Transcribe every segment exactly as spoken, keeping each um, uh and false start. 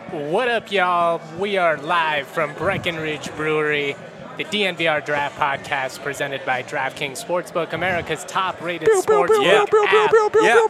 What up, y'all? We are live from Breckenridge Brewery, the D N V R Draft Podcast presented by DraftKings Sportsbook, America's top-rated sportsbook yeah. app. Yeah.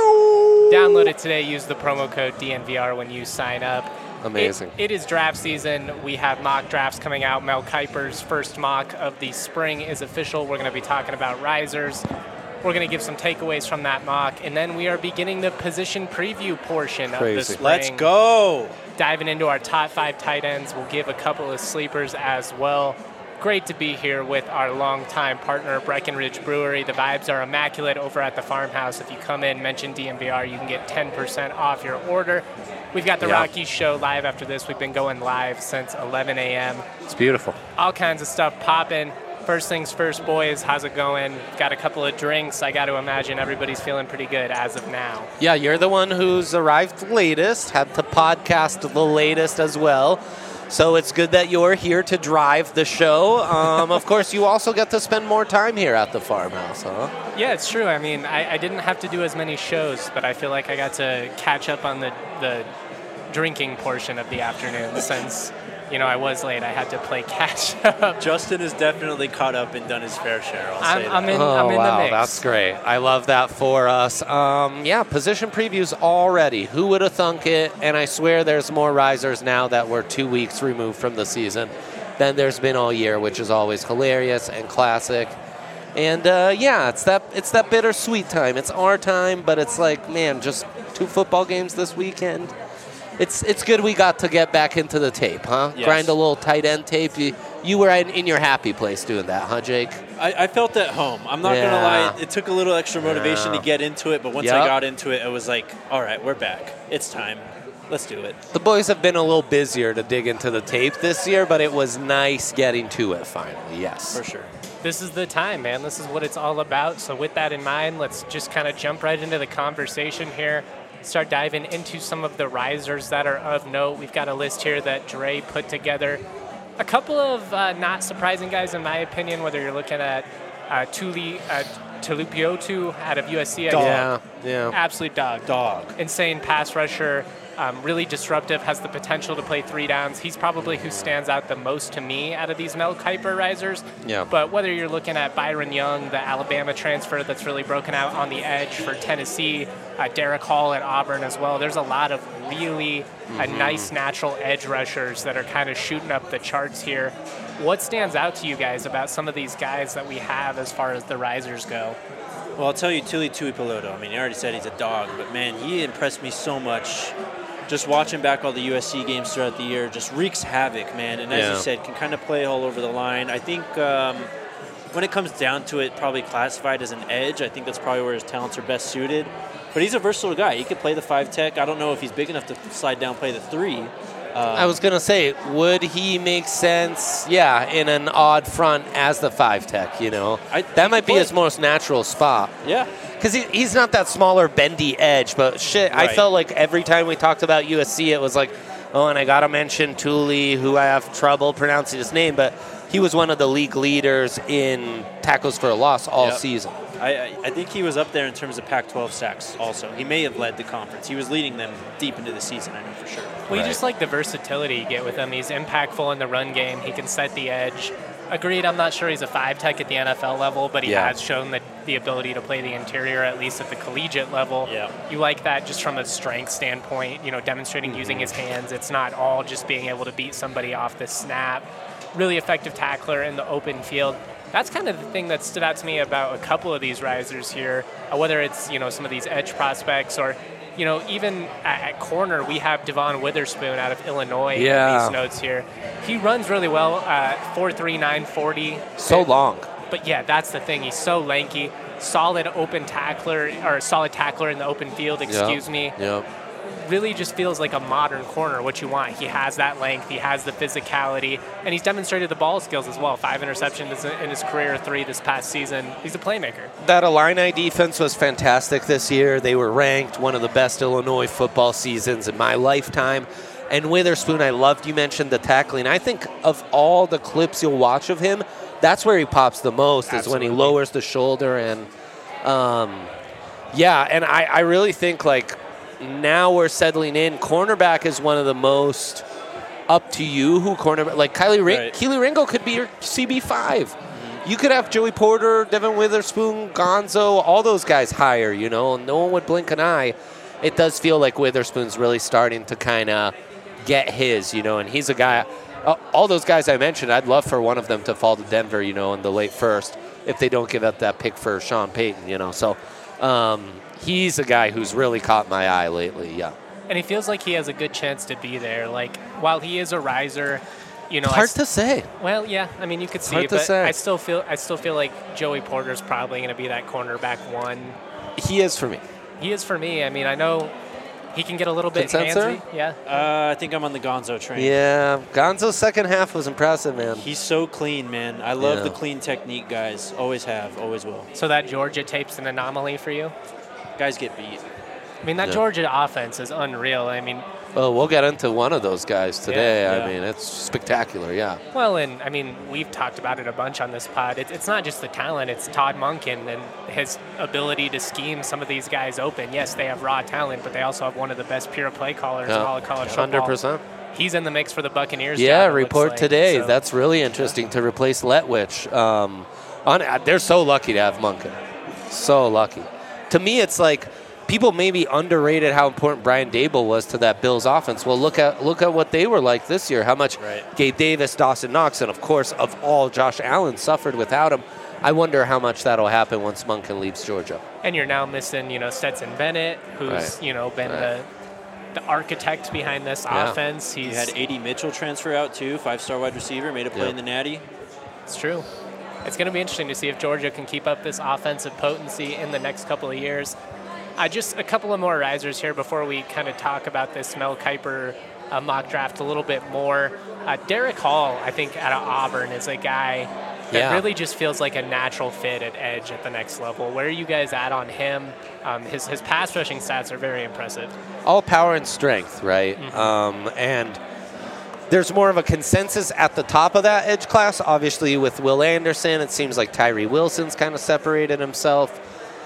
Download it today. Use the promo code D N V R when you sign up. Amazing. It, it is draft season. We have mock drafts coming out. Mel Kiper's first mock of the spring is official. We're going to be talking about risers. We're going to give some takeaways from that mock, and then we are beginning the position preview portion Crazy. of the spring. Let's go. Diving into our top five tight ends. We'll give a couple of sleepers as well. Great to be here with our longtime partner, Breckenridge Brewery. The vibes are immaculate over at the farmhouse. If you come in, mention D N V R, you can get ten percent off your order. We've got the Yeah. Rockies show live after this. We've been going live since eleven a.m. It's beautiful. All kinds of stuff popping. First things first, boys, how's it going? Got a couple of drinks. I got to imagine everybody's feeling pretty good as of now. Yeah, you're the one who's arrived latest, had to podcast the latest as well. So it's good that you're here to drive the show. Um, of course, you also get to spend more time here at the farmhouse, huh? Yeah, it's true. I mean, I, I didn't have to do as many shows, but I feel like I got to catch up on the, the drinking portion of the afternoon since, you know, I was late. I had to play catch up. Justin has definitely caught up and done his fair share. I'll I'm, say I'm that. in, Oh, I'm in wow, the mix. that's great. I love that for us. Um, yeah, position previews already. Who would have thunk it? And I swear there's more risers now that we're two weeks removed from the season than there's been all year, which is always hilarious and classic. And uh, yeah, it's that it's that bittersweet time. It's our time, but it's like, man, just two football games this weekend. It's it's good we got to get back into the tape, huh? Yes. Grind a little tight end tape. You, you were in, in your happy place doing that, huh, Jake? I, I felt at home. I'm not Yeah. going to lie. It took a little extra motivation Yeah. to get into it, but once Yep. I got into it, it was like, all right, we're back. It's time. Let's do it. The boys have been a little busier to dig into the tape this year, but it was nice getting to it finally, yes. For sure. This is the time, man. This is what it's all about. So with that in mind, let's just kind of jump right into the conversation here. Start diving into some of the risers that are of note. We've got a list here that Dre put together. A couple of uh, not surprising guys, in my opinion, whether you're looking at uh, Tuli uh, Tulupiotu out of U S C. I Dog. Yeah, yeah. Absolute dog. Dog. Insane pass rusher. Um, really disruptive, has the potential to play three downs. He's probably who stands out the most to me out of these Mel Kiper risers. Yeah. But whether you're looking at Byron Young, the Alabama transfer that's really broken out on the edge for Tennessee, uh, Derek Hall at Auburn as well, there's a lot of really Mm-hmm. uh, nice natural edge rushers that are kind of shooting up the charts here. What stands out to you guys about some of these guys that we have as far as the risers go? Well, I'll tell you, Tuli Tuipulotu. I mean, you already said he's a dog, but man, he impressed me so much. Just watching back all the U S C games throughout the year, just wreaks havoc, man. And as Yeah. you said, can kind of play all over the line. I think um, when it comes down to it, probably classified as an edge. I think that's probably where his talents are best suited. But he's a versatile guy. He could play the five tech. I don't know if he's big enough to slide down, play the three. I was going to say, would he make sense, yeah, in an odd front as the five tech, you know? I- that he might could be play. his most natural spot. Yeah. Because he, he's not that smaller, bendy edge, but shit, I Right. felt like every time we talked about U S C, it was like, oh, and I got to mention Tuli, who I have trouble pronouncing his name, but he was one of the league leaders in tackles for a loss all Yep. season. I, I I think he was up there in terms of Pac twelve sacks also. He may have led the conference. He was leading them deep into the season, I know for sure. Well, you Right. just like the versatility you get with him. He's impactful in the run game. He can set the edge. Agreed, I'm not sure he's a five tech at the N F L level, but he Yeah. has shown the, the ability to play the interior, at least at the collegiate level. Yeah. You like that just from a strength standpoint, you know, demonstrating using his hands. It's not all just being able to beat somebody off the snap. Really effective tackler in the open field. That's kind of the thing that stood out to me about a couple of these risers here, uh, whether it's, you know, some of these edge prospects or, you know, even at, at corner, we have Devon Witherspoon out of Illinois Yeah. in these notes here. He runs really well, uh, four three, nine forty. So long. But yeah, that's the thing. He's so lanky, solid open tackler, or solid tackler in the open field, excuse me. Yep. Really just feels like a modern corner, what you want. He has that length, he has the physicality, and he's demonstrated the ball skills as well. Five interceptions in his career, three this past season. He's a playmaker. That Illini defense was fantastic this year. They were ranked one of the best Illinois football seasons in my lifetime. And Witherspoon, I loved you mentioned the tackling. I think of all the clips you'll watch of him, that's where he pops the most, is when he Absolutely. lowers the shoulder. And, um, yeah, and I, I really think, like, now we're settling in. Cornerback is one of the most up to you who cornerback. Like Kylie Ring- Right. Keely Ringo could be your C B five. Mm-hmm. You could have Joey Porter, Devin Witherspoon, Gonzo, all those guys higher, you know. No one would blink an eye. It does feel like Witherspoon's really starting to kind of get his, you know, and he's a guy. Uh, all those guys I mentioned, I'd love for one of them to fall to Denver, you know, in the late first if they don't give up that pick for Sean Payton, you know. So um, he's a guy who's really caught my eye lately, yeah. And he feels like he has a good chance to be there. Like, while he is a riser, you know, Hard I, to say. Well, yeah, I mean, you could see Hard it, to but say. I still feel I still feel like Joey Porter's probably going to be that cornerback one. He is for me. He is for me. I mean, I know he can get a little bit Consensus? handsy. Yeah. Uh, I think I'm on the Gonzo train. Yeah, Gonzo's second half was impressive, man. He's so clean, man. I love Yeah. the clean technique, guys. Always have, always will. So that Georgia tape's an anomaly for you? Guys get beat. I mean, that Yeah. Georgia offense is unreal. I mean, Well, we'll get into one of those guys today. Yeah, I yeah. mean, it's spectacular, yeah. well, and I mean, we've talked about it a bunch on this pod. It's, it's not just the talent, it's Todd Monken and his ability to scheme some of these guys open. Yes, they have raw talent, but they also have one of the best pure play callers in all of college football. one hundred percent. He's in the mix for the Buccaneers. Yeah, job, it looks report like. today. So- That's really interesting to replace Letwich. Um, on, they're so lucky to have Monken. So lucky. To me, it's like people maybe underrated how important Brian Dable was to that Bills offense. Well, look at look at what they were like this year. How much Right. Gabe Davis, Dawson Knox, and of course, of all, Josh Allen suffered without him. I wonder how much that'll happen once Monken leaves Georgia. And you're now missing, you know, Stetson Bennett, who's, Right. you know, been Right. the the architect behind this Yeah. offense. He's You had A D Mitchell transfer out too, five-star wide receiver, made a play Yep. in the Natty. It's true. It's going to be interesting to see if Georgia can keep up this offensive potency in the next couple of years. Uh, just a couple of more risers here before we kind of talk about this Mel Kiper uh, mock draft a little bit more. Uh, Derek Hall, I think, out of Auburn is a guy that Yeah. really just feels like a natural fit at edge at the next level. Where are you guys at on him? Um, his, his pass rushing stats are very impressive. All power and strength, right? Mm-hmm. Um, and there's more of a consensus at the top of that edge class. Obviously, with Will Anderson, it seems like Tyree Wilson's kind of separated himself.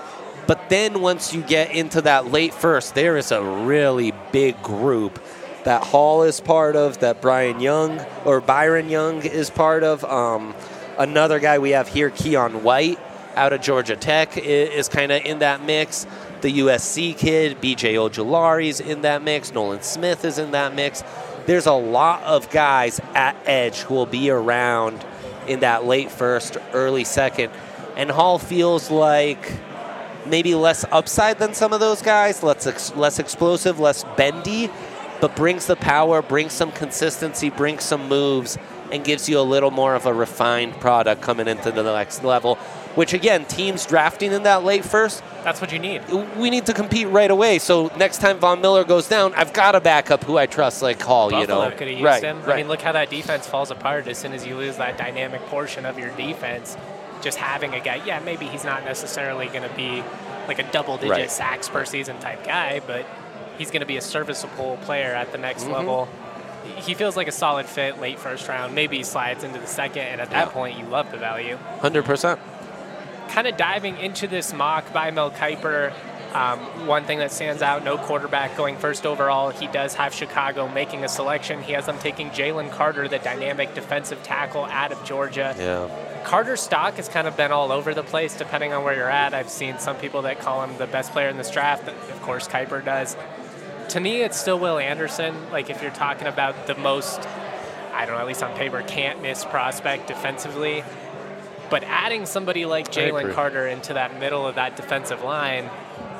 But then once you get into that late first, there is a really big group that Hall is part of, that Brian Young or Byron Young is part of. Um, another guy we have here, Keon White, out of Georgia Tech, i- is kind of in that mix. The U S C kid, B J Ojolari's in that mix. Nolan Smith is in that mix. There's a lot of guys at edge who will be around in that late first, early second. And Hall feels like maybe less upside than some of those guys, less, ex- less explosive, less bendy, but brings the power, brings some consistency, brings some moves, and gives you a little more of a refined product coming into the next level, which, again, teams drafting in that late first, That's what you need. we need to compete right away. So next time Von Miller goes down, I've got a backup who I trust, like Hall, you Buffalo know. could have used right, him. right. I mean, look how that defense falls apart as soon as you lose that dynamic portion of your defense. Just having a guy, yeah, maybe he's not necessarily going to be like a double-digit Right. sacks per season type guy, but he's going to be a serviceable player at the next Mm-hmm. level. He feels like a solid fit late first round. Maybe he slides into the second, and at that Yeah. point, you love the value. one hundred percent. Kind of diving into this mock by Mel Kiper, um, one thing that stands out, no quarterback going first overall. He does have Chicago making a selection. He has them taking Jalen Carter, the dynamic defensive tackle out of Georgia. Yeah. Carter's stock has kind of been all over the place depending on where you're at. I've seen some people that call him the best player in this draft. Of course, Kiper does. To me, it's still Will Anderson. Like, if you're talking about the most, I don't know, at least on paper, can't miss prospect defensively. But adding somebody like Jalen agree. Carter into that middle of that defensive line,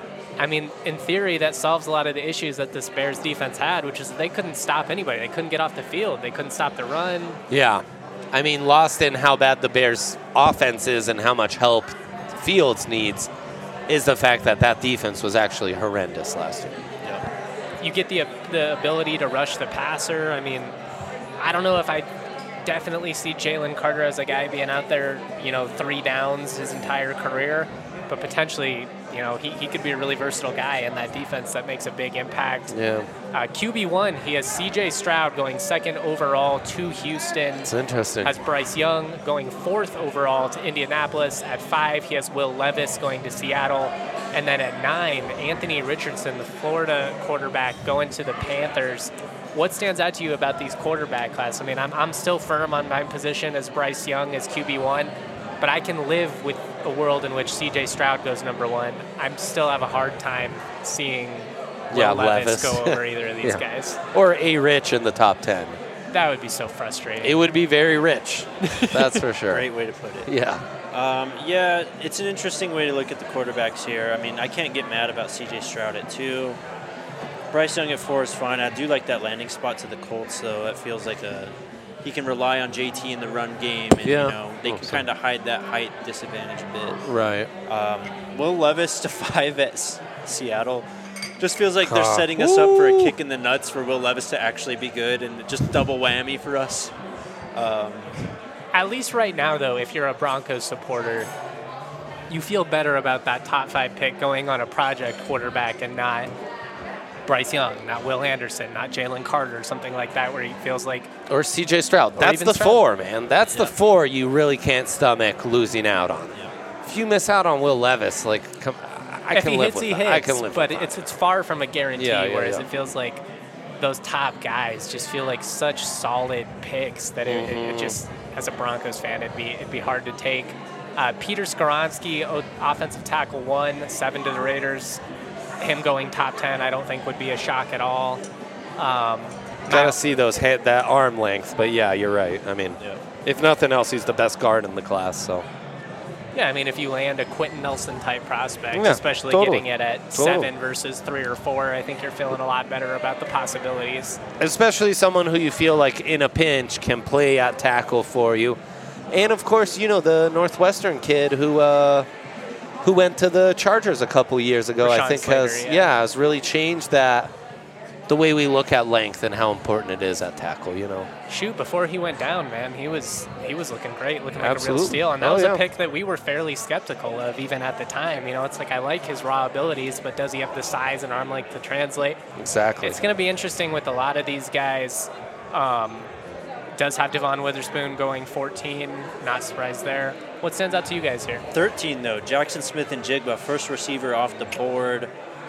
I mean, in theory, that solves a lot of the issues that this Bears defense had, which is that they couldn't stop anybody. They couldn't get off the field. They couldn't stop the run. Yeah. I mean, lost in how bad the Bears' offense is and how much help Fields needs is the fact that that defense was actually horrendous last year. You get the the ability to rush the passer. I mean, I don't know if I definitely see Jalen Carter as a guy being out there, you know, three downs his entire career, but potentially, you know, he, he could be a really versatile guy in that defense that makes a big impact. Yeah. Uh, Q B one, he has C J Stroud going second overall to Houston. It's interesting. Has Bryce Young going fourth overall to Indianapolis. At five, he has Will Levis going to Seattle. And then at nine, Anthony Richardson, the Florida quarterback, going to the Panthers. What stands out to you about these quarterback class? I mean, I'm, I'm still firm on my position as Bryce Young as Q B one, but I can live with a world in which C J Stroud goes number one. I still have a hard time seeing Will yeah, Levis, Levis. go over either of these Yeah. guys. Or A. Rich in the top ten. That would be so frustrating. It would be very rich. That's for sure. Great way to put it. Yeah. Um, yeah, it's an interesting way to look at the quarterbacks here. I mean, I can't get mad about C J Stroud at two. Bryce Young at four is fine. I do like that landing spot to the Colts, though. That feels like a he can rely on J T in the run game, and Yeah. you know they can Awesome. kind of hide that height disadvantage a bit. Right. Um, Will Levis to five at S- Seattle. Just feels like they're Huh. setting us up for a Ooh. kick in the nuts for Will Levis to actually be good, and just double whammy for us. Um, At least right now, though, if you're a Broncos supporter, you feel better about that top five pick going on a project quarterback and not Bryce Young, not Will Anderson, not Jalen Carter, something like that, where he feels like Or C J Stroud. That's even the Stroud. four, man. That's the Yeah. four you really can't stomach losing out on. yeah. If you miss out on Will Levis, like, come, I if can he live hits, with he that. hits. I can live but with that. it's it's far from a guarantee. Yeah, yeah, whereas yeah. it feels like those top guys just feel like such solid picks that it, it- it Mhm. just, as a Broncos fan, it'd be it'd be hard to take. Uh, Peter Skoronski, o- offensive tackle one, seven to the Raiders. Him going top ten, I don't think would be a shock at all. Um, Gotta see those head, that arm length, but yeah, you're right. I mean, Yeah. if nothing else, he's the best guard in the class. So Yeah, I mean, if you land a Quentin Nelson type prospect, Yeah, especially totally. getting it at Totally. seven versus three or four, I think you're feeling a lot better about the possibilities. especially someone who you feel like in a pinch can play at tackle for you, and of course, you know the Northwestern kid who uh, who went to the Chargers a couple years ago. I Rashawn think Slater, has yeah. yeah has really changed that the way we look at length and how important it is at tackle. You know. Shoot, before he went down, man, he was he was looking great, looking like Absolutely. a real steal. And that Oh, was yeah. a pick that we were fairly skeptical of even at the time. You know, it's like I like his raw abilities, but does he have the size and arm length to translate? Exactly. It's going to be interesting with a lot of these guys. Um, does have Devon Witherspoon going fourteen. Not surprised there. What stands out to you guys here? thirteen, though, Jackson Smith and Jigba, first receiver off the board.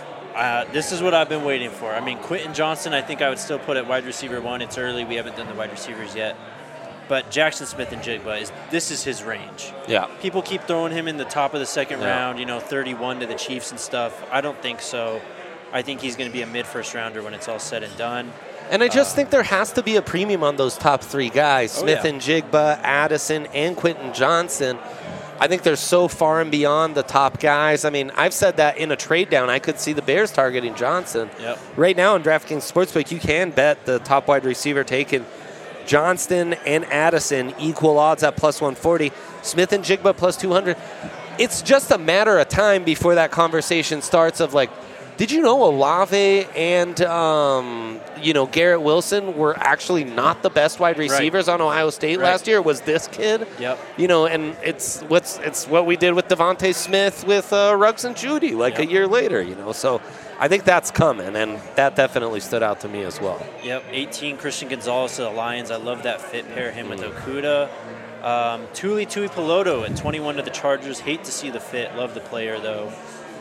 Uh, this is what I've been waiting for. I mean, Quentin Johnson, I think I would still put at wide receiver one. It's early. We haven't done the wide receivers yet. But Jackson Smith and Jigba, is this is his range. Yeah. People keep throwing him in the top of the second Yeah. round, you know, thirty-one to the Chiefs and stuff. I don't think so. I think he's going to be a mid-first rounder when it's all said and done. And I just think there has to be a premium on those top three guys, Oh, Smith yeah. and Jigba, Addison, and Quentin Johnson. I think they're so far and beyond the top guys. I mean, I've said that in a trade down, I could see the Bears targeting Johnson. Yep. Right now in DraftKings Sportsbook, you can bet the top wide receiver taken. Johnston and Addison equal odds at plus one forty. Smith and Jigba plus two hundred. It's just a matter of time before that conversation starts of like, did you know Olave and um, you know Garrett Wilson were actually not the best wide receivers on Ohio State Right. last year? It was this kid? Yep. You know, and it's what's it's what we did with Devontae Smith with uh, Ruggs and Judy like Yep. a year later. You know, so I think that's coming, and that definitely stood out to me as well. Yep, eighteen, Christian Gonzalez to the Lions. I love that fit. Pair him with Okuda. Um, Tuli Tui Peloto at twenty-one to the Chargers. Hate to see the fit. Love the player, though.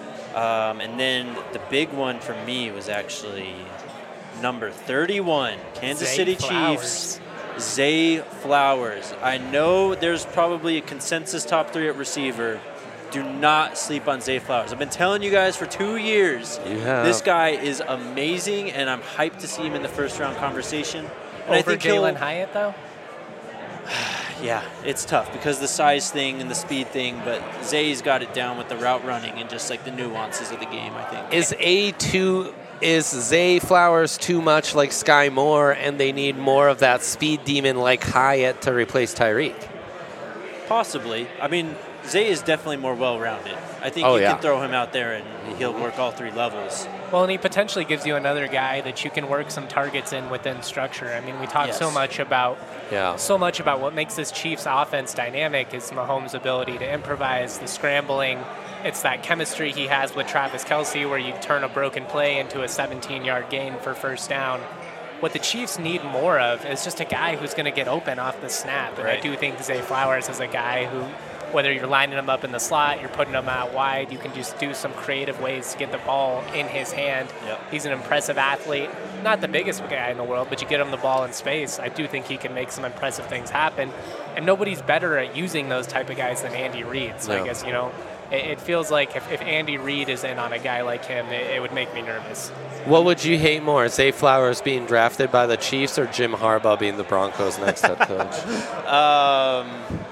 Um, and then the big one for me was actually number thirty-one, Kansas Zay City Flowers. Chiefs. Zay Flowers. I know there's probably a consensus top three at receiver. Do not sleep on Zay Flowers. I've been telling you guys for two years. You have. This guy is amazing, and I'm hyped to see him in the first round conversation. And I Over think he'll- Jalen Hyatt, though? Yeah, it's tough because the size thing and the speed thing, but Zay's got it down with the route running and just like the nuances of the game, I think. Is A too is Zay Flowers too much like Sky Moore, and they need more of that speed demon like Hyatt to replace Tyreek? Possibly. I mean, Zay is definitely more well-rounded. I think Oh, you yeah. can throw him out there and he'll work all three levels. Well, and he potentially gives you another guy that you can work some targets in within structure. I mean, we talk so Yes. much about Yeah. so much about what makes this Chiefs offense dynamic is Mahomes' ability to improvise, the scrambling. It's that chemistry he has with Travis Kelce where you turn a broken play into a seventeen-yard gain for first down. What the Chiefs need more of is just a guy who's going to get open off the snap. And I Right. do think Zay Flowers is a guy who Whether you're lining him up in the slot, you're putting him out wide, you can just do some creative ways to get the ball in his hand. Yep. He's an impressive athlete. Not the biggest guy in the world, but you get him the ball in space. I do think he can make some impressive things happen. And nobody's better at using those type of guys than Andy Reid. So No. I guess, you know, it, it feels like if, if Andy Reid is in on a guy like him, it, it would make me nervous. What would you hate more, Zay Flowers being drafted by the Chiefs or Jim Harbaugh being the Broncos' next head coach? Um,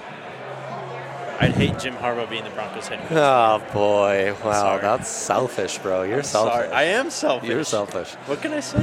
I'd hate Jim Harbaugh being the Broncos head coach. Oh, boy. Wow, Sorry. that's selfish, bro. You're selfish. Sorry, I am selfish. You're selfish. What can I say?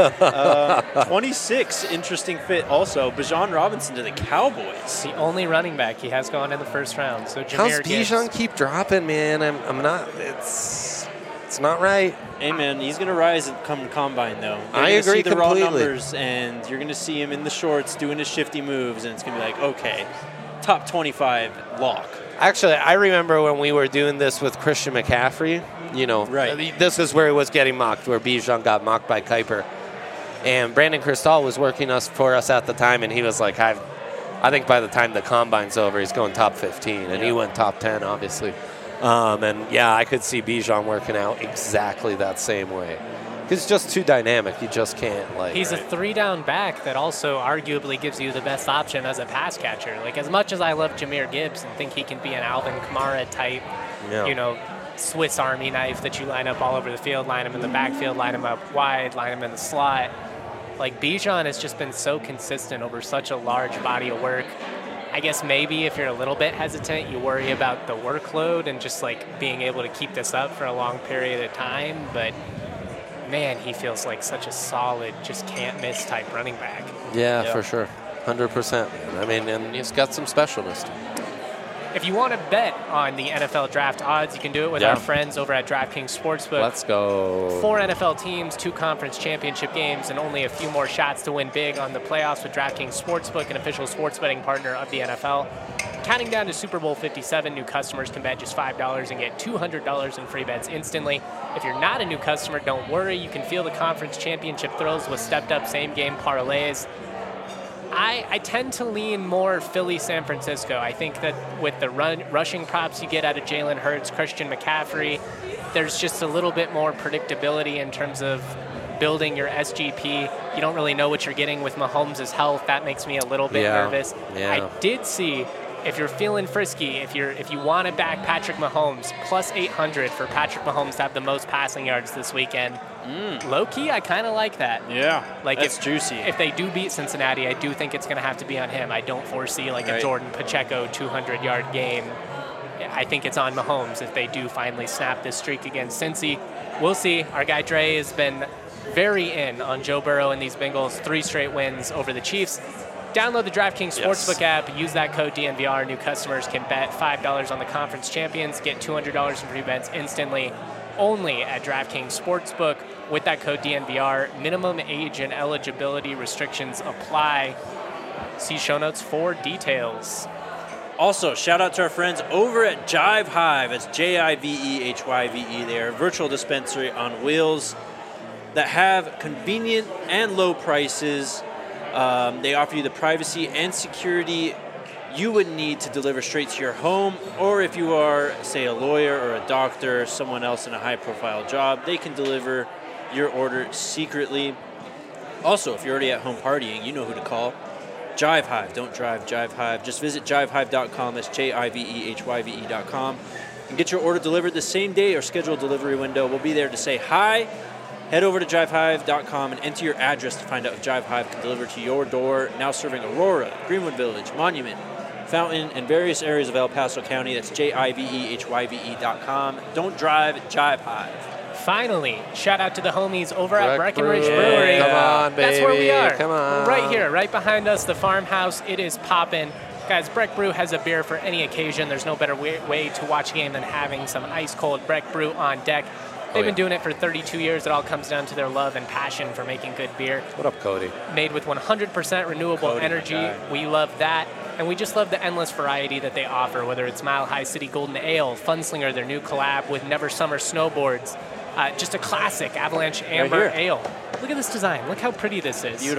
uh, twenty-six, interesting fit also. Bijan Robinson to the Cowboys. The only running back he has gone in the first round. So Jahmyr How's Gibbs. Bijan keep dropping, man? I'm, I'm not. It's it's not right. Hey, man, he's going to rise and come to Combine, though. You're I gonna agree see the raw completely. numbers, and you're going to see him in the shorts doing his shifty moves, and it's going to be like, okay, top twenty-five lock. Actually, I remember when we were doing this with Christian McCaffrey. You know, Right. this is where he was getting mocked, where Bijan got mocked by Kuiper. And Brandon Cristal was working us for us at the time, and he was like, I've, I think by the time the Combine's over, he's going top fifteen. And he Yeah. went top ten, obviously. Um, and, yeah, I could see Bijan working out exactly that same way. He's just too dynamic. You just can't, like... He's a three-down back that also arguably gives you the best option as a pass catcher. Like, as much as I love Jahmyr Gibbs and think he can be an Alvin Kamara type, Yeah. you know, Swiss Army knife that you line up all over the field, line him in the backfield, line him up wide, line him in the slot. Like, Bijan has just been so consistent over such a large body of work. I guess maybe if you're a little bit hesitant, you worry about the workload and just, like, being able to keep this up for a long period of time. But, man, he feels like such a solid, just can't-miss type running back. Yeah, Yeah. for sure. one hundred percent. I mean, and he's got some specialists. If you want to bet on the N F L draft odds, you can do it with Yeah. our friends over at DraftKings Sportsbook. Let's go. Four N F L teams, two conference championship games, and only a few more shots to win big on the playoffs with DraftKings Sportsbook, an official sports betting partner of the N F L. Counting down to Super Bowl fifty-seven, new customers can bet just five dollars and get two hundred dollars in free bets instantly. If you're not a new customer, don't worry. You can feel the conference championship thrills with stepped-up same-game parlays. I, I tend to lean more Philly, San Francisco. I think that with the run, rushing props you get out of Jalen Hurts, Christian McCaffrey, there's just a little bit more predictability in terms of building your S G P. You don't really know what you're getting with Mahomes' health. That makes me a little bit Yeah, nervous. yeah. I did see, if you're feeling frisky, if you're if you want to back Patrick Mahomes, plus eight hundred for Patrick Mahomes to have the most passing yards this weekend. Low key, I kind of like that. Yeah, Like that's if, juicy. If they do beat Cincinnati, I do think it's going to have to be on him. I don't foresee like a Right. Jordan Pacheco two hundred yard game. I think it's on Mahomes if they do finally snap this streak against Cincy. We'll see. Our guy Dre has been very in on Joe Burrow and these Bengals, three straight wins over the Chiefs. Download the DraftKings Yes. Sportsbook app. Use that code D N V R. New customers can bet five dollars on the conference champions. Get two hundred dollars in free bets instantly. Only at DraftKings Sportsbook with that code D N V R. Minimum age and eligibility restrictions apply. See show notes for details. Also, shout out to our friends over at Jive Hive. It's J I V E H Y V E. They are a virtual dispensary on wheels that have convenient and low prices. Um, they offer you the privacy and security you would need to deliver straight to your home, or if you are, say, a lawyer or a doctor, someone else in a high-profile job, they can deliver your order secretly. Also, if you're already at home partying, you know who to call. Jive Hive. Don't drive, Jive Hive. Just visit jive hive dot com. That's J I V E H Y V E dot com. And get your order delivered the same day or schedule a delivery window. We'll be there to say hi. Head over to jive hive dot com and enter your address to find out if Jive Hive can deliver to your door. Now serving Aurora, Greenwood Village, Monument, Fountain, and various areas of El Paso County. That's J I V E H Y V E dot com. Don't drive, Jive Hive. Finally, shout out to the homies over at Breck Breckenridge Brew. Brewery. Come on, That's where we baby. are. Come on. We're right here, right behind us, the farmhouse. It is poppin'. Guys, Breck Brew has a beer for any occasion. There's no better way, way to watch a game than having some ice-cold Breck Brew on deck. They've Oh, been yeah. doing it for thirty-two years. It all comes down to their love and passion for making good beer. What up, Cody? Made with one hundred percent renewable Cody, my energy. guy. We love that. And we just love the endless variety that they offer, whether it's Mile High City Golden Ale, Funslinger, their new collab with Never Summer Snowboards, uh, just a classic Avalanche Amber here. Ale. Look at this design. Look how pretty this is. Beautiful.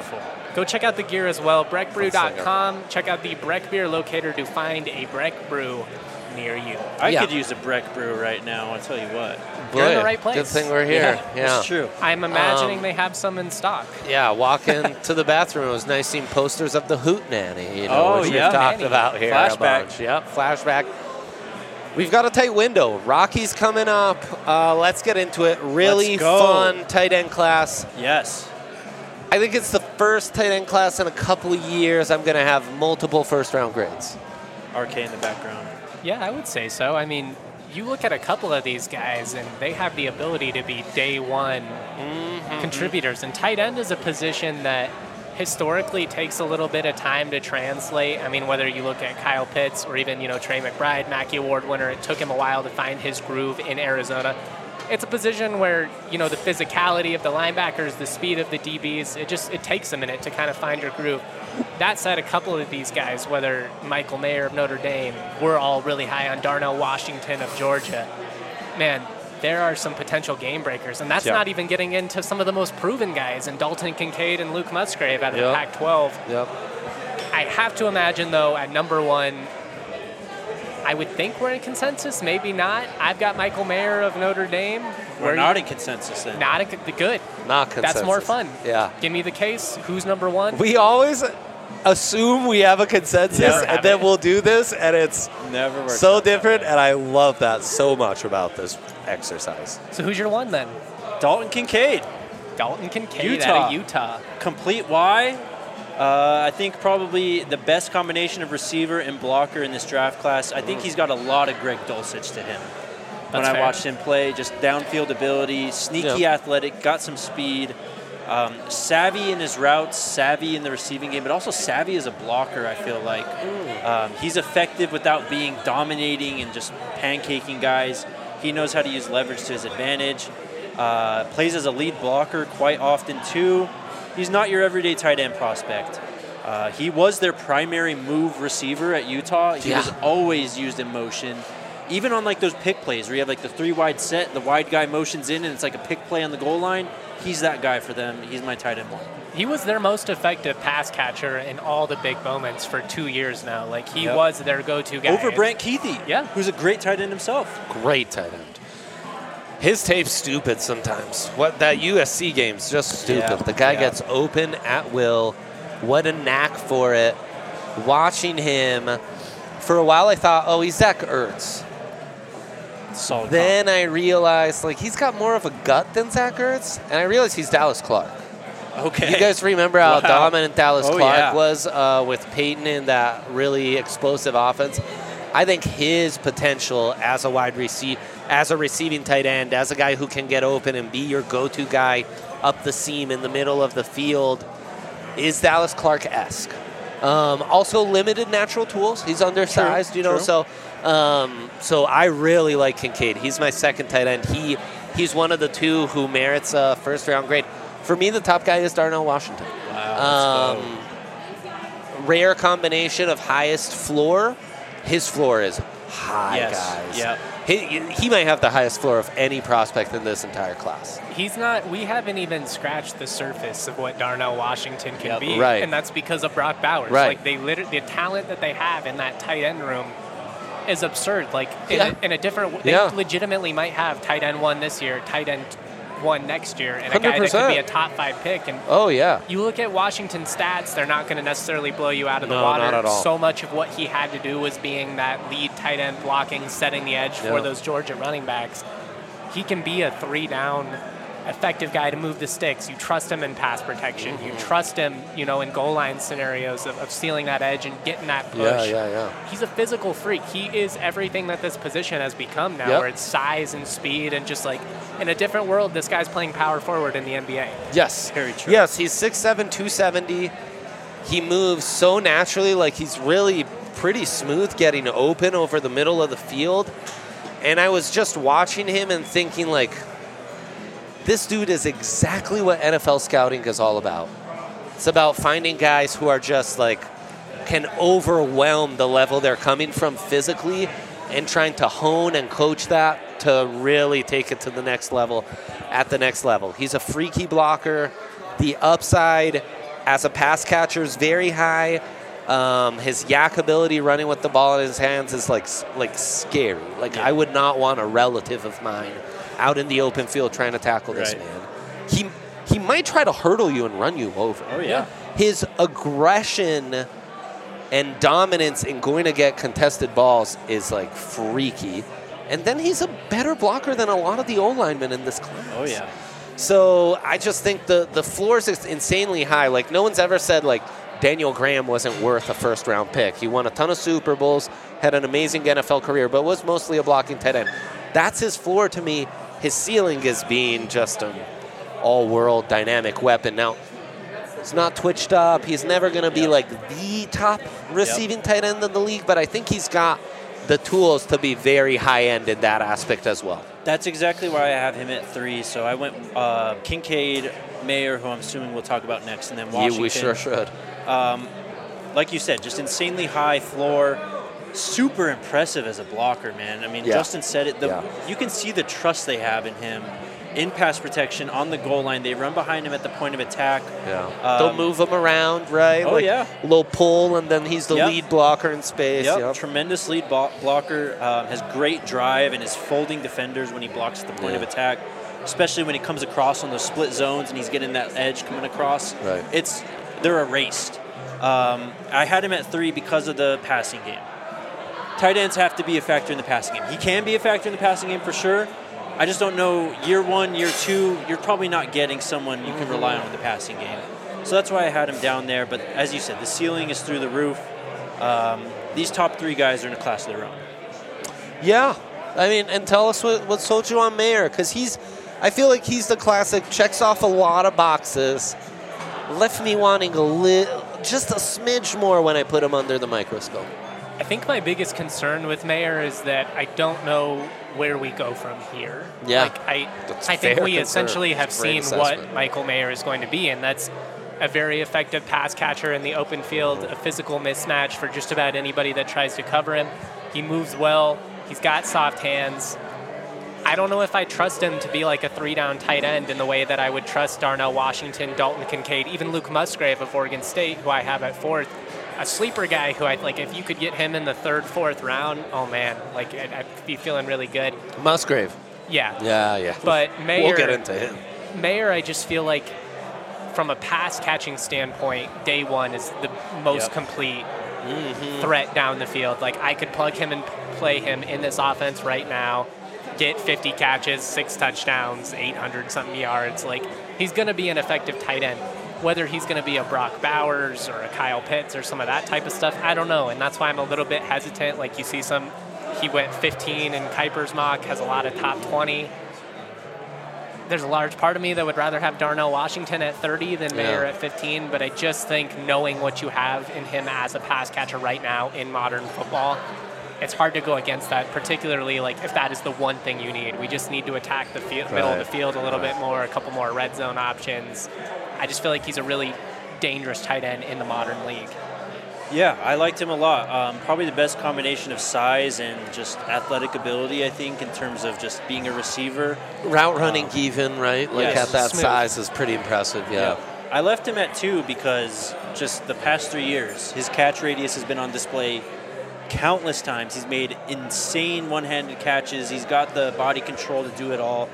Go check out the gear as well, breck brew dot com. Check out the Breck Beer Locator to find a Breck Brew near you. I Yeah. could use a Breck Brew right now, I'll tell you what. You're in the Boy, right place. Good thing we're here. Yeah, Yeah. that's true. I'm imagining Um, they have some in stock. Yeah, walking to the bathroom, it was nice seeing posters of the Hoot Nanny, you know, Oh, which yeah. we've talked Nanny. about here Flashback. a bunch. Yep, flashback. We've got a tight window. Rockies coming up. Uh, let's get into it. Really Let's go. fun tight end class. Yes. I think it's the first tight end class in a couple of years I'm going to have multiple first round grades. R K in the background. Yeah, I would say so. I mean, you look at a couple of these guys, and they have the ability to be day one contributors. And tight end is a position that historically takes a little bit of time to translate. I mean, whether you look at Kyle Pitts or even, you know, Trey McBride, Mackey Award winner, it took him a while to find his groove in Arizona. It's a position where, you know, the physicality of the linebackers, the speed of the D Bs, it just, it takes a minute to kind of find your groove. That said, a couple of these guys, whether Michael Mayer of Notre Dame, we're all really high on Darnell Washington of Georgia. Man, there are some potential game breakers, and that's Yep. not even getting into some of the most proven guys, and Dalton Kincaid and Luke Musgrave out of Yep. the Pac twelve. Yep. I have to imagine, though, at number one, I would think we're in consensus, maybe not. I've got Michael Mayer of Notre Dame. We're Where not you- in consensus then. Not a, the good. Not consensus. That's more fun. Yeah. Give me the case. Who's number one? We always assume we have a consensus, Never and have then it. we'll do this, and it's Never works so out. different, and I love that so much about this exercise. So who's your one then? Dalton Kincaid. Dalton Kincaid Utah. out of Utah. Complete Y. Uh, I think probably the best combination of receiver and blocker in this draft class. I think he's got a lot of Greg Dulcich to him. when That's I fair. watched him play, just downfield ability, sneaky Yeah. athletic, got some speed, um, savvy in his routes, savvy in the receiving game, but also savvy as a blocker, I feel like. Um, he's effective without being dominating and just pancaking guys. He knows how to use leverage to his advantage. Uh, plays as a lead blocker quite often, too. He's not your everyday tight end prospect. Uh, he was their primary move receiver at Utah. He Yeah. was always used in motion. Even on like those pick plays where you have like the three wide set, the wide guy motions in and it's like a pick play on the goal line, he's that guy for them. He's my tight end one. He was their most effective pass catcher in all the big moments for two years now. Like, he Yep. was their go-to guy. Over Brant Keithy, Yeah. who's a great tight end himself. Great tight end. His tape's stupid sometimes. What that U S C game's just stupid. Yeah, The guy yeah. gets open at will. What a knack for it. Watching him, for a while I thought, oh, he's Zach Ertz. Solid. Then I realized, like, he's got more of a gut than Zach Ertz, and I realized he's Dallas Clark. comp. Okay. You guys remember how Wow. dominant Dallas Oh, Clark yeah. was uh, with Peyton in that really explosive offense? I think his potential as a wide receiver, as a receiving tight end, as a guy who can get open and be your go-to guy up the seam in the middle of the field, is Dallas Clark-esque. Um, also, limited natural tools. He's undersized, True, you know. true. So, um, so I really like Kincaid. He's my second tight end. He, he's one of the two who merits a first-round grade. For me, the top guy is Darnell Washington. Wow, let's Um, rare combination of highest floor. His floor is high, Yes, guys. yep. He, he might have the highest floor of any prospect in this entire class. He's not, we haven't even scratched the surface of what Darnell Washington can Yep. be. Right. And that's because of Brock Bowers. Right. Like, they literally, the talent that they have in that tight end room is absurd. Like, in, Yeah. a, in a different, they Yeah. legitimately might have tight end one this year, tight end one next year, and a guy that could one hundred be a percent. top five pick. And Oh, yeah. you look at Washington's stats, they're not going to necessarily blow you out of the No, water. not at all. So much of what he had to do was being that lead tight end blocking, setting the edge Yeah. for those Georgia running backs. He can be a three down effective guy to move the sticks. You trust him in pass protection. Mm-hmm. You trust him, you know, in goal line scenarios of, of sealing that edge and getting that push. Yeah, yeah, yeah. He's a physical freak. He is everything that this position has become now, Yep. where it's size and speed and just like in a different world, this guy's playing power forward in the N B A. Yes. Very true. Yes, he's six seven, two seventy. He moves so naturally, like he's really pretty smooth getting open over the middle of the field. And I was just watching him and thinking, like, this dude is exactly what N F L scouting is all about. It's about finding guys who are just like, can overwhelm the level they're coming from physically and trying to hone and coach that to really take it to the next level at the next level. He's a freaky blocker. The upside as a pass catcher is very high. Um, his yak ability running with the ball in his hands is like like scary. Like Yeah. I would not want a relative of mine out in the open field trying to tackle this Right. man. He he might try to hurdle you and run you over. Oh, yeah. His aggression and dominance in going to get contested balls is like freaky. And then he's a better blocker than a lot of the O linemen in this class. Oh, yeah. So I just think the the floor is insanely high. Like no one's ever said like Daniel Graham wasn't worth a first round pick. He won a ton of Super Bowls, had an amazing N F L career, but was mostly a blocking tight end. That's his floor to me. His ceiling is being just an all-world dynamic weapon. Now, he's not twitched up. He's never going to be Yep. like the top receiving tight end in the league, but I think he's got the tools to be very high-end in that aspect as well. That's exactly why I have him at three. So I went uh, Kincaid, Mayer, who I'm assuming we'll talk about next, and then Washington. Yeah, we sure should. Um, like you said, just insanely high floor, super impressive as a blocker, man. I mean, Yeah. Justin said it. The, Yeah. You can see the trust they have in him in pass protection on the goal line. They run behind him at the point of attack. Yeah. Um, They'll move him around, right? Oh, like yeah. A little pull, and then he's the Yep. lead blocker in space. Yep, Yep. tremendous lead blo- blocker. Um, has great drive and is folding defenders when he blocks at the point Yeah. of attack, especially when he comes across on those split zones and he's getting that edge coming across. Right. It's they're erased. Um, I had him at three because of the passing game. Tight ends have to be a factor in the passing game. He can be a factor in the passing game for sure. I just don't know, year one, year two, you're probably not getting someone you can rely on with the passing game. So that's why I had him down there. But as you said, the ceiling is through the roof. Um, these top three guys are in a class of their own. Yeah. I mean, and tell us what, what sold you on Mayer, because he's, I feel like he's the classic, checks off a lot of boxes, left me wanting a little, just a smidge more when I put him under the microscope. I think my biggest concern with Mayer is that I don't know where we go from here. Yeah. Like I, That's I think fair we concern. essentially have That's a great seen what assessment. Michael Mayer is going to be, and that's a very effective pass catcher in the open field, a physical mismatch for just about anybody that tries to cover him. He moves well. He's got soft hands. I don't know if I trust him to be like a three-down tight end in the way that I would trust Darnell Washington, Dalton Kincaid, even Luke Musgrave of Oregon State, who I have at fourth. A sleeper guy who I like, if you could get him in the third, fourth round, oh man, like I'd, I'd be feeling really good. Musgrave. Yeah. Yeah, yeah. But Mayer, We'll get into him. Mayer, I just feel like from a pass catching standpoint, day one is the most Yep. complete Mm-hmm. threat down the field. Like I could plug him and play him in this offense right now, get fifty catches, six touchdowns, eight hundred something yards. Like he's going to be an effective tight end. Whether he's going to be a Brock Bowers or a Kyle Pitts or some of that type of stuff, I don't know. And that's why I'm a little bit hesitant. Like you see some, he went fifteen in Kuiper's mock, has a lot of top twenty. There's a large part of me that would rather have Darnell Washington at thirty than Mayer Yeah. at fifteen, but I just think knowing what you have in him as a pass catcher right now in modern football, it's hard to go against that, particularly like if that is the one thing you need. We just need to attack the field, middle of the Right. field a little Right. bit more, a couple more red zone options. I just feel like he's a really dangerous tight end in the modern league. Yeah, I liked him a lot. Um, probably the best combination of size and just athletic ability, I think, in terms of just being a receiver. Route running even, right? Like yes, at that smooth. size is pretty impressive, yeah. I left him at two because just the past three years, his catch radius has been on display countless times. He's made insane one-handed catches. He's got the body control to do it all.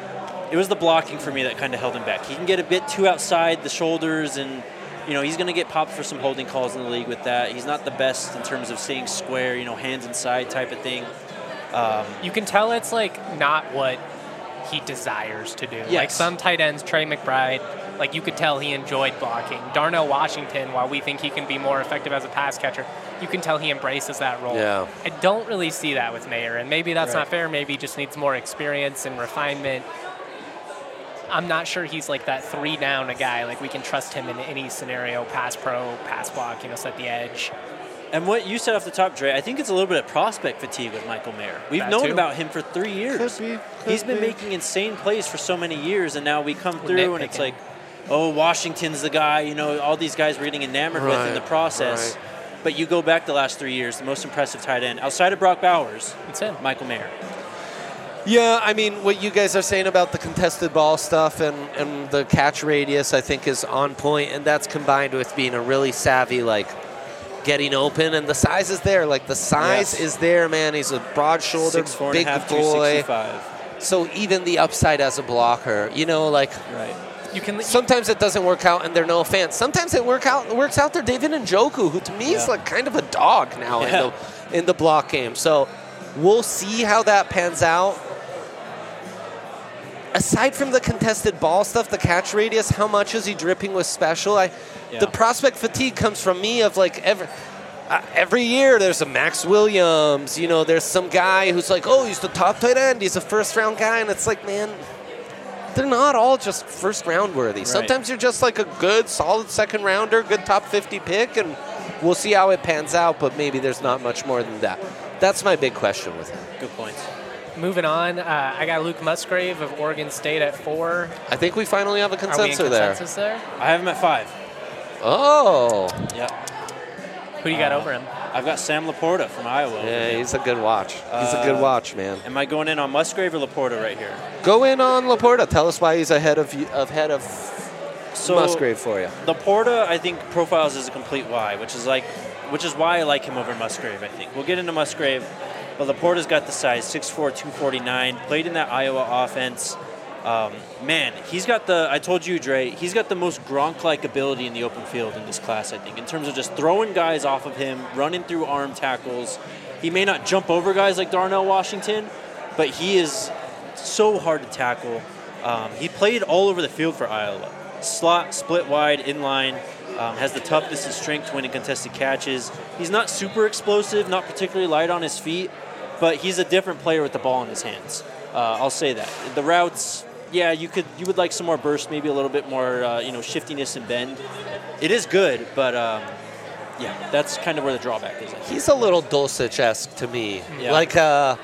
It was the blocking for me that kind of held him back. He can get a bit too outside the shoulders, and you know he's going to get popped for some holding calls in the league with that. He's not the best in terms of staying square, you know, hands inside type of thing. Um, You can tell it's like not what he desires to do. Like Yes. some tight ends, Trey McBride, like you could tell he enjoyed blocking. Darnell Washington, while we think he can be more effective as a pass catcher, you can tell he embraces that role. Yeah. I don't really see that with Mayer, and maybe that's Right. not fair. Maybe he just needs more experience and refinement. I'm not sure he's like that three down a guy. Like we can trust him in any scenario, pass pro, pass block, you know, set the edge. And what you said off the top, Dre, I think it's a little bit of prospect fatigue with Michael Mayer. We've That known too. about him for three years. Could be, could He's been be. making insane plays for so many years, and now we come We're through and it's nitpicking. like, oh, Washington's the guy. You know, all these guys we're getting enamored with in Right, the process. right. But you go back the last three years, the most impressive tight end outside of Brock Bowers, It's him. Michael Mayer. Yeah, I mean, what you guys are saying about the contested ball stuff and, and the catch radius, I think, is on point, and that's combined with being a really savvy, like, getting open, and the size is there. Like, the size Yes. is there, man. He's a broad-shouldered, Six, four and big a half, boy. two sixty-five. So even the upside as a blocker, you know, like, Right. You can sometimes it doesn't work out, and they're no fans. Sometimes it work out. It works out. They're David Njoku, who to me is Yeah. like kind of a dog now Yeah. in the in the block game. So we'll see how that pans out. Aside from the contested ball stuff, the catch radius, how much is he dripping with special? I, Yeah. the prospect fatigue comes from me of like every. Uh, every year there's a Max Williams, you know, there's some guy who's like, oh, he's the top tight end, he's a first round guy, and it's like, man, they're not all just first round worthy. Right. Sometimes you're just like a good, solid second rounder, good top fifty pick, and we'll see how it pans out, but maybe there's not much more than that. That's my big question with him. Good points. Moving on, uh, I got Luke Musgrave of Oregon State at four. I think we finally have a Are we in consensus there. consensus there? I have him at five. Oh, Yeah. Who do you got Uh, over him? I've got Sam Laporta from Iowa. over yeah, him. he's a good watch. He's a good Uh, watch, man. Am I going in on Musgrave or Laporta right here? Go in on Laporta. Tell us why he's ahead of you, ahead of So Musgrave for you. Laporta, I think, profiles as a complete Y, which is like, which is why I like him over Musgrave. I think we'll get into Musgrave, but Laporta's got the size, six four, two forty-nine. Played in that Iowa offense. Um, man, he's got the. I told you, Dre. He's got the most Gronk-like ability in the open field in this class. I think, in terms of just throwing guys off of him, running through arm tackles. He may not jump over guys like Darnell Washington, but he is so hard to tackle. Um, he played all over the field for Iowa. Slot, split wide, inline, um, has the toughness and strength to win in contested catches. He's not super explosive, not particularly light on his feet, but he's a different player with the ball in his hands. Uh, I'll say that. The routes, yeah, you could you would like some more burst, maybe a little bit more, uh, you know, shiftiness and bend. It is good, but um, yeah, that's kind of where the drawback is. I think. He's a little Dulcich-esque to me. Yeah. Like, uh,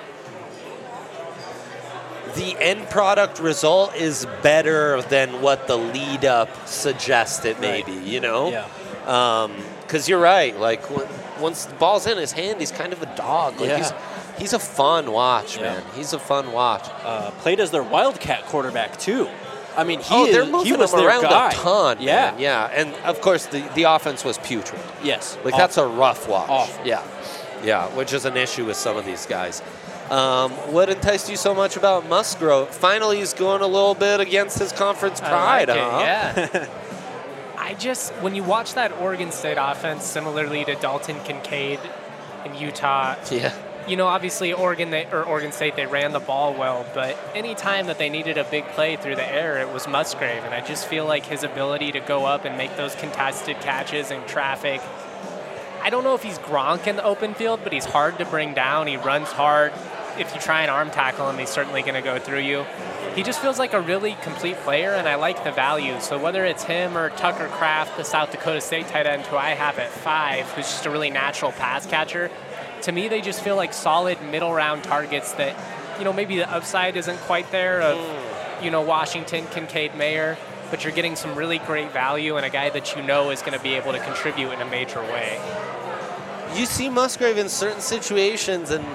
the end product result is better than what the lead up suggested, maybe, Right. you know? Yeah. Because you're right. Like, when, once the ball's in his hand, he's kind of a dog. Like, Yeah. he's, he's a fun watch, Yeah. man. He's a fun watch. Uh, played as their Wildcat quarterback too. I mean, he oh, is, they're moving he was him their around guy. a ton, Yeah. man. Yeah, and of course, the, the offense was putrid. Yes. Like, that's a rough watch. Awful. Yeah. Yeah, which is an issue with some of these guys. Um, what enticed you so much about Musgrove? Finally, he's going a little bit against his conference pride, I like huh? it, yeah. I just, when you watch that Oregon State offense, similarly to Dalton Kincaid in Utah, Yeah. you know, obviously Oregon they, or Oregon State, they ran the ball well, but any time that they needed a big play through the air, it was Musgrave. And I just feel like his ability to go up and make those contested catches in traffic, I don't know if he's Gronk in the open field, but he's hard to bring down. He runs hard. If you try and arm tackle him, he's certainly going to go through you. He just feels like a really complete player, and I like the value. So whether it's him or Tucker Kraft, the South Dakota State tight end, who I have at five, who's just a really natural pass catcher, to me they just feel like solid middle round targets that, you know, maybe the upside isn't quite there of, you know, Washington, Kincaid, Mayer, but you're getting some really great value and a guy that you know is going to be able to contribute in a major way. You see Musgrave in certain situations, and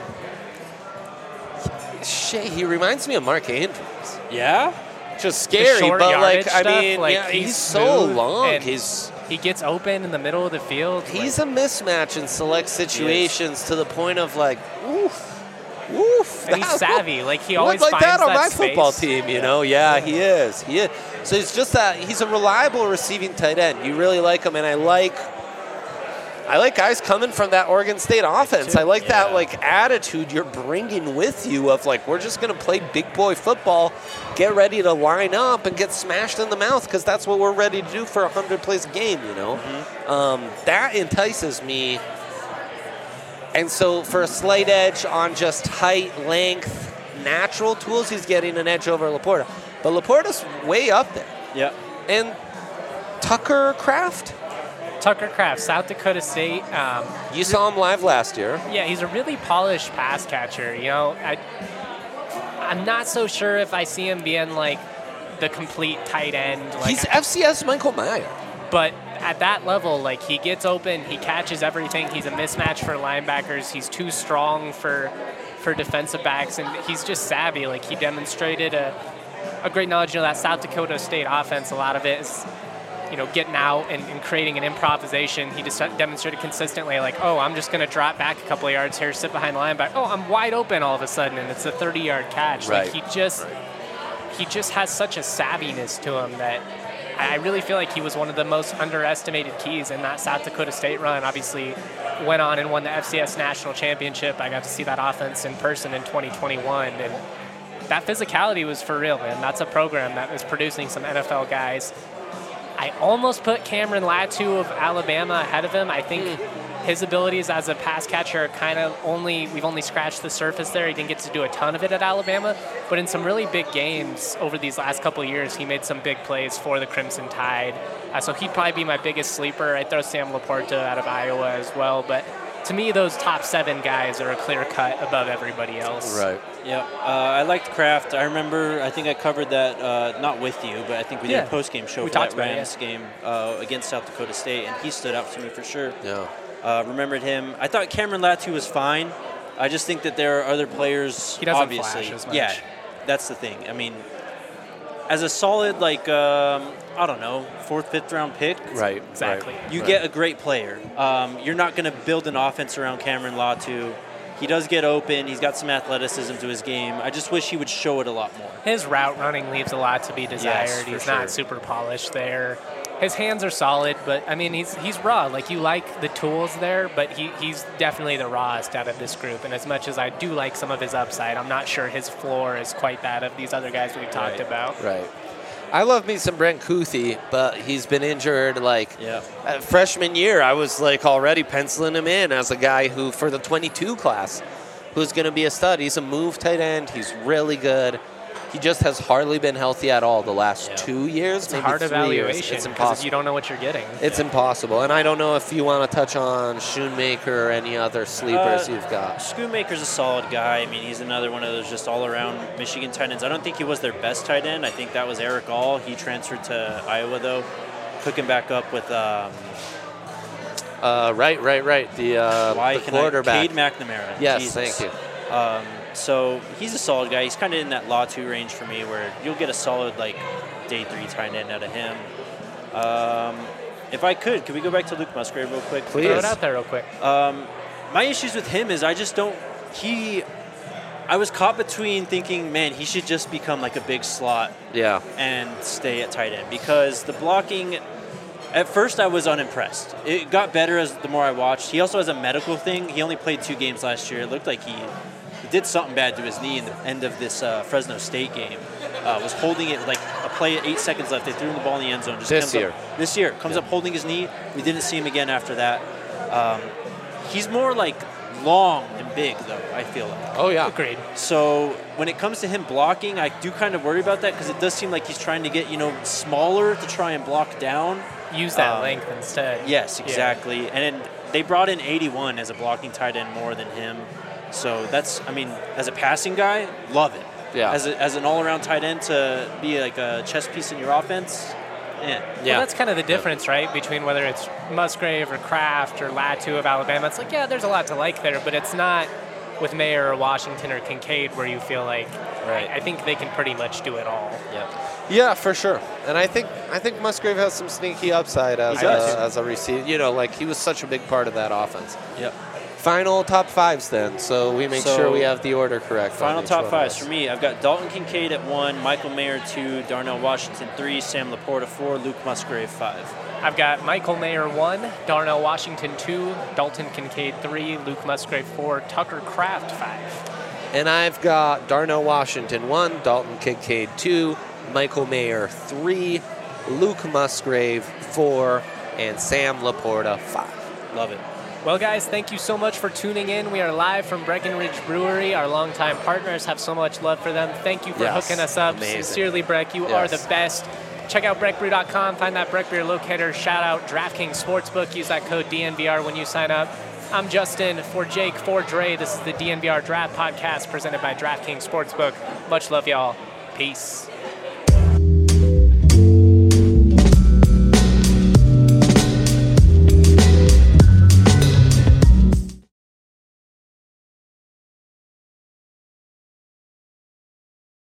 shit, he reminds me of Mark Andrews. Yeah. Just scary, short but like, yardage I stuff, mean, like, yeah, he's, he's so smooth long. and He's He gets open in the middle of the field. he's like, a mismatch in select situations to the point of like, oof, oof. and he's that- savvy. Like he I would always like finds that on that my space. football team, you know? Yeah, he is. He is. So it's just that he's a reliable receiving tight end. You really like him, and I like, I like guys coming from that Oregon State offense. I like that Yeah. like attitude you're bringing with you of like, we're just gonna play big boy football, get ready to line up and get smashed in the mouth because that's what we're ready to do for a hundred plays a game. You know, Mm-hmm. um, that entices me. And so for a slight edge on just height, length, natural tools, he's getting an edge over Laporta. But Laporta's way up there. Yeah. And Tucker Kraft, Tucker Kraft, South Dakota State. Um, you saw him live last year. yeah, he's a really polished pass catcher. You know, I, I'm not so sure if I see him being like the complete tight end. Like, He's F C S Michael Meyer. but at that level, like he gets open, he catches everything. He's a mismatch for linebackers. He's too strong for for defensive backs, and he's just savvy. Like, he demonstrated a, a great knowledge. You know, that South Dakota State offense, a lot of it is, you know, getting out and, and creating an improvisation. He just demonstrated consistently, like, oh, I'm just going to drop back a couple of yards here, sit behind the linebacker. Oh, I'm wide open all of a sudden, and it's a thirty-yard catch. Right. Like, he just, right. he just has such a savviness to him that I really feel like he was one of the most underestimated keys in that South Dakota State run. Obviously, went on and won the F C S National Championship. I got to see that offense in person in twenty twenty-one, and that physicality was for real, man. That's a program that was producing some N F L guys. I almost put Cameron Latu of Alabama ahead of him. I think mm. his abilities as a pass catcher are kind of only, we've only scratched the surface there. He didn't get to do a ton of it at Alabama, but in some really big games over these last couple of years, he made some big plays for the Crimson Tide. Uh, so he'd probably be my biggest sleeper. I'd throw Sam Laporta out of Iowa as well, but to me, those top seven guys are a clear cut above everybody else. Right. Yeah. Uh, I liked Kraft. I remember, I think I covered that, uh, not with you, but I think we did yeah. a post-game show we for that it, Rams yeah. game uh, against South Dakota State, and he stood out to me for sure. Yeah. Uh, remembered him. I thought Cameron Latu was fine. I just think that there are other players, he doesn't obviously. flash as much. Yeah, that's the thing. I mean, as a solid, like, um, I don't know, fourth, fifth round pick. Right. Exactly. Right. You right. get a great player. Um, you're not going to build an offense around Cameron Latu. He does get open. He's got some athleticism to his game. I just wish he would show it a lot more. His route running leaves a lot to be desired. Yes, he's sure. not super polished there. His hands are solid, but I mean, he's he's raw. Like, you like the tools there, but he, he's definitely the rawest out of this group. And as much as I do like some of his upside, I'm not sure his floor is quite that of these other guys we've talked Right. about. Right. I love me some Brent Kuthi, but he's been injured. Like, Yeah. uh, freshman year, I was like already penciling him in as a guy who, for the twenty-two class, who's going to be a stud. He's a move tight end. He's really good. He just has hardly been healthy at all the last Yeah. two years, It's a maybe hard three evaluation years. It's because impossible. you don't know what you're getting. It's Yeah. impossible. And I don't know if you want to touch on Schoonmaker or any other sleepers Uh, you've got. Schoonmaker's a solid guy. I mean, he's another one of those just all-around Michigan tight ends. I don't think he was their best tight end. I think that was Eric All. He transferred to Iowa, though. Took him back up with um, Uh, right, right, right. The, uh, why the can I- quarterback. Cade McNamara. Yes, Jesus. thank you. Um, so he's a solid guy. He's kind of in that law two range for me, where you'll get a solid like day three tight end out of him. Um, if I could, could we go back to Luke Musgrave real quick? Please. Throw it out there real quick. Um, my issues with him is I just don't. He, I was caught between thinking, man, he should just become like a big slot Yeah. and stay at tight end, because the blocking. At first, I was unimpressed. It got better as the more I watched. He also has a medical thing. He only played two games last year. It looked like he, he did something bad to his knee in the end of this uh, Fresno State game. Uh, was holding it like a play at eight seconds left. They threw him the ball in the end zone. Just This comes year. Up, this year. Comes Yeah. up holding his knee. We didn't see him again after that. Um, he's more like long and big, though, I feel like. Oh, yeah. Agreed. So when it comes to him blocking, I do kind of worry about that, because it does seem like he's trying to get, you know, smaller to try and block down. Use that Um, length instead. Yes, Yeah. exactly. And then they brought in eighty-one as a blocking tight end more than him. So that's, I mean, as a passing guy, love it. Yeah. As, a, as an all-around tight end to be like a chess piece in your offense, yeah. Well, that's kind of the difference, right, between whether it's Musgrave or Kraft or Latu of Alabama. It's like, yeah, there's a lot to like there, but it's not with Mayer or Washington or Kincaid where you feel like, Right. I, I think they can pretty much do it all. Yep. Yeah, for sure. And I think I think Musgrave has some sneaky upside as He does. a, as a receiver. You know, like he was such a big part of that offense. Yep. Final top fives then, so we make So, sure we have the order correct. on Final each top one of fives us. for me. I've got Dalton Kincaid at one, Michael Mayer two, Darnell Washington three, Sam Laporta four, Luke Musgrave five. I've got Michael Mayer one, Darnell Washington two, Dalton Kincaid three, Luke Musgrave four, Tucker Kraft five. And I've got Darnell Washington one, Dalton Kincaid two, Michael Mayer three, Luke Musgrave four, and Sam Laporta five. Love it. Well, guys, thank you so much for tuning in. We are live from Breckenridge Brewery. Our longtime partners have so much love for them. Thank you for Yes, hooking us up. amazing. Sincerely, Breck, you Yes. are the best. Check out breck brew dot com. Find that Breck Beer locator. Shout out DraftKings Sportsbook. Use that code D N V R when you sign up. I'm Justin for Jake, for Dre. This is the D N V R Draft Podcast presented by DraftKings Sportsbook. Much love, y'all. Peace.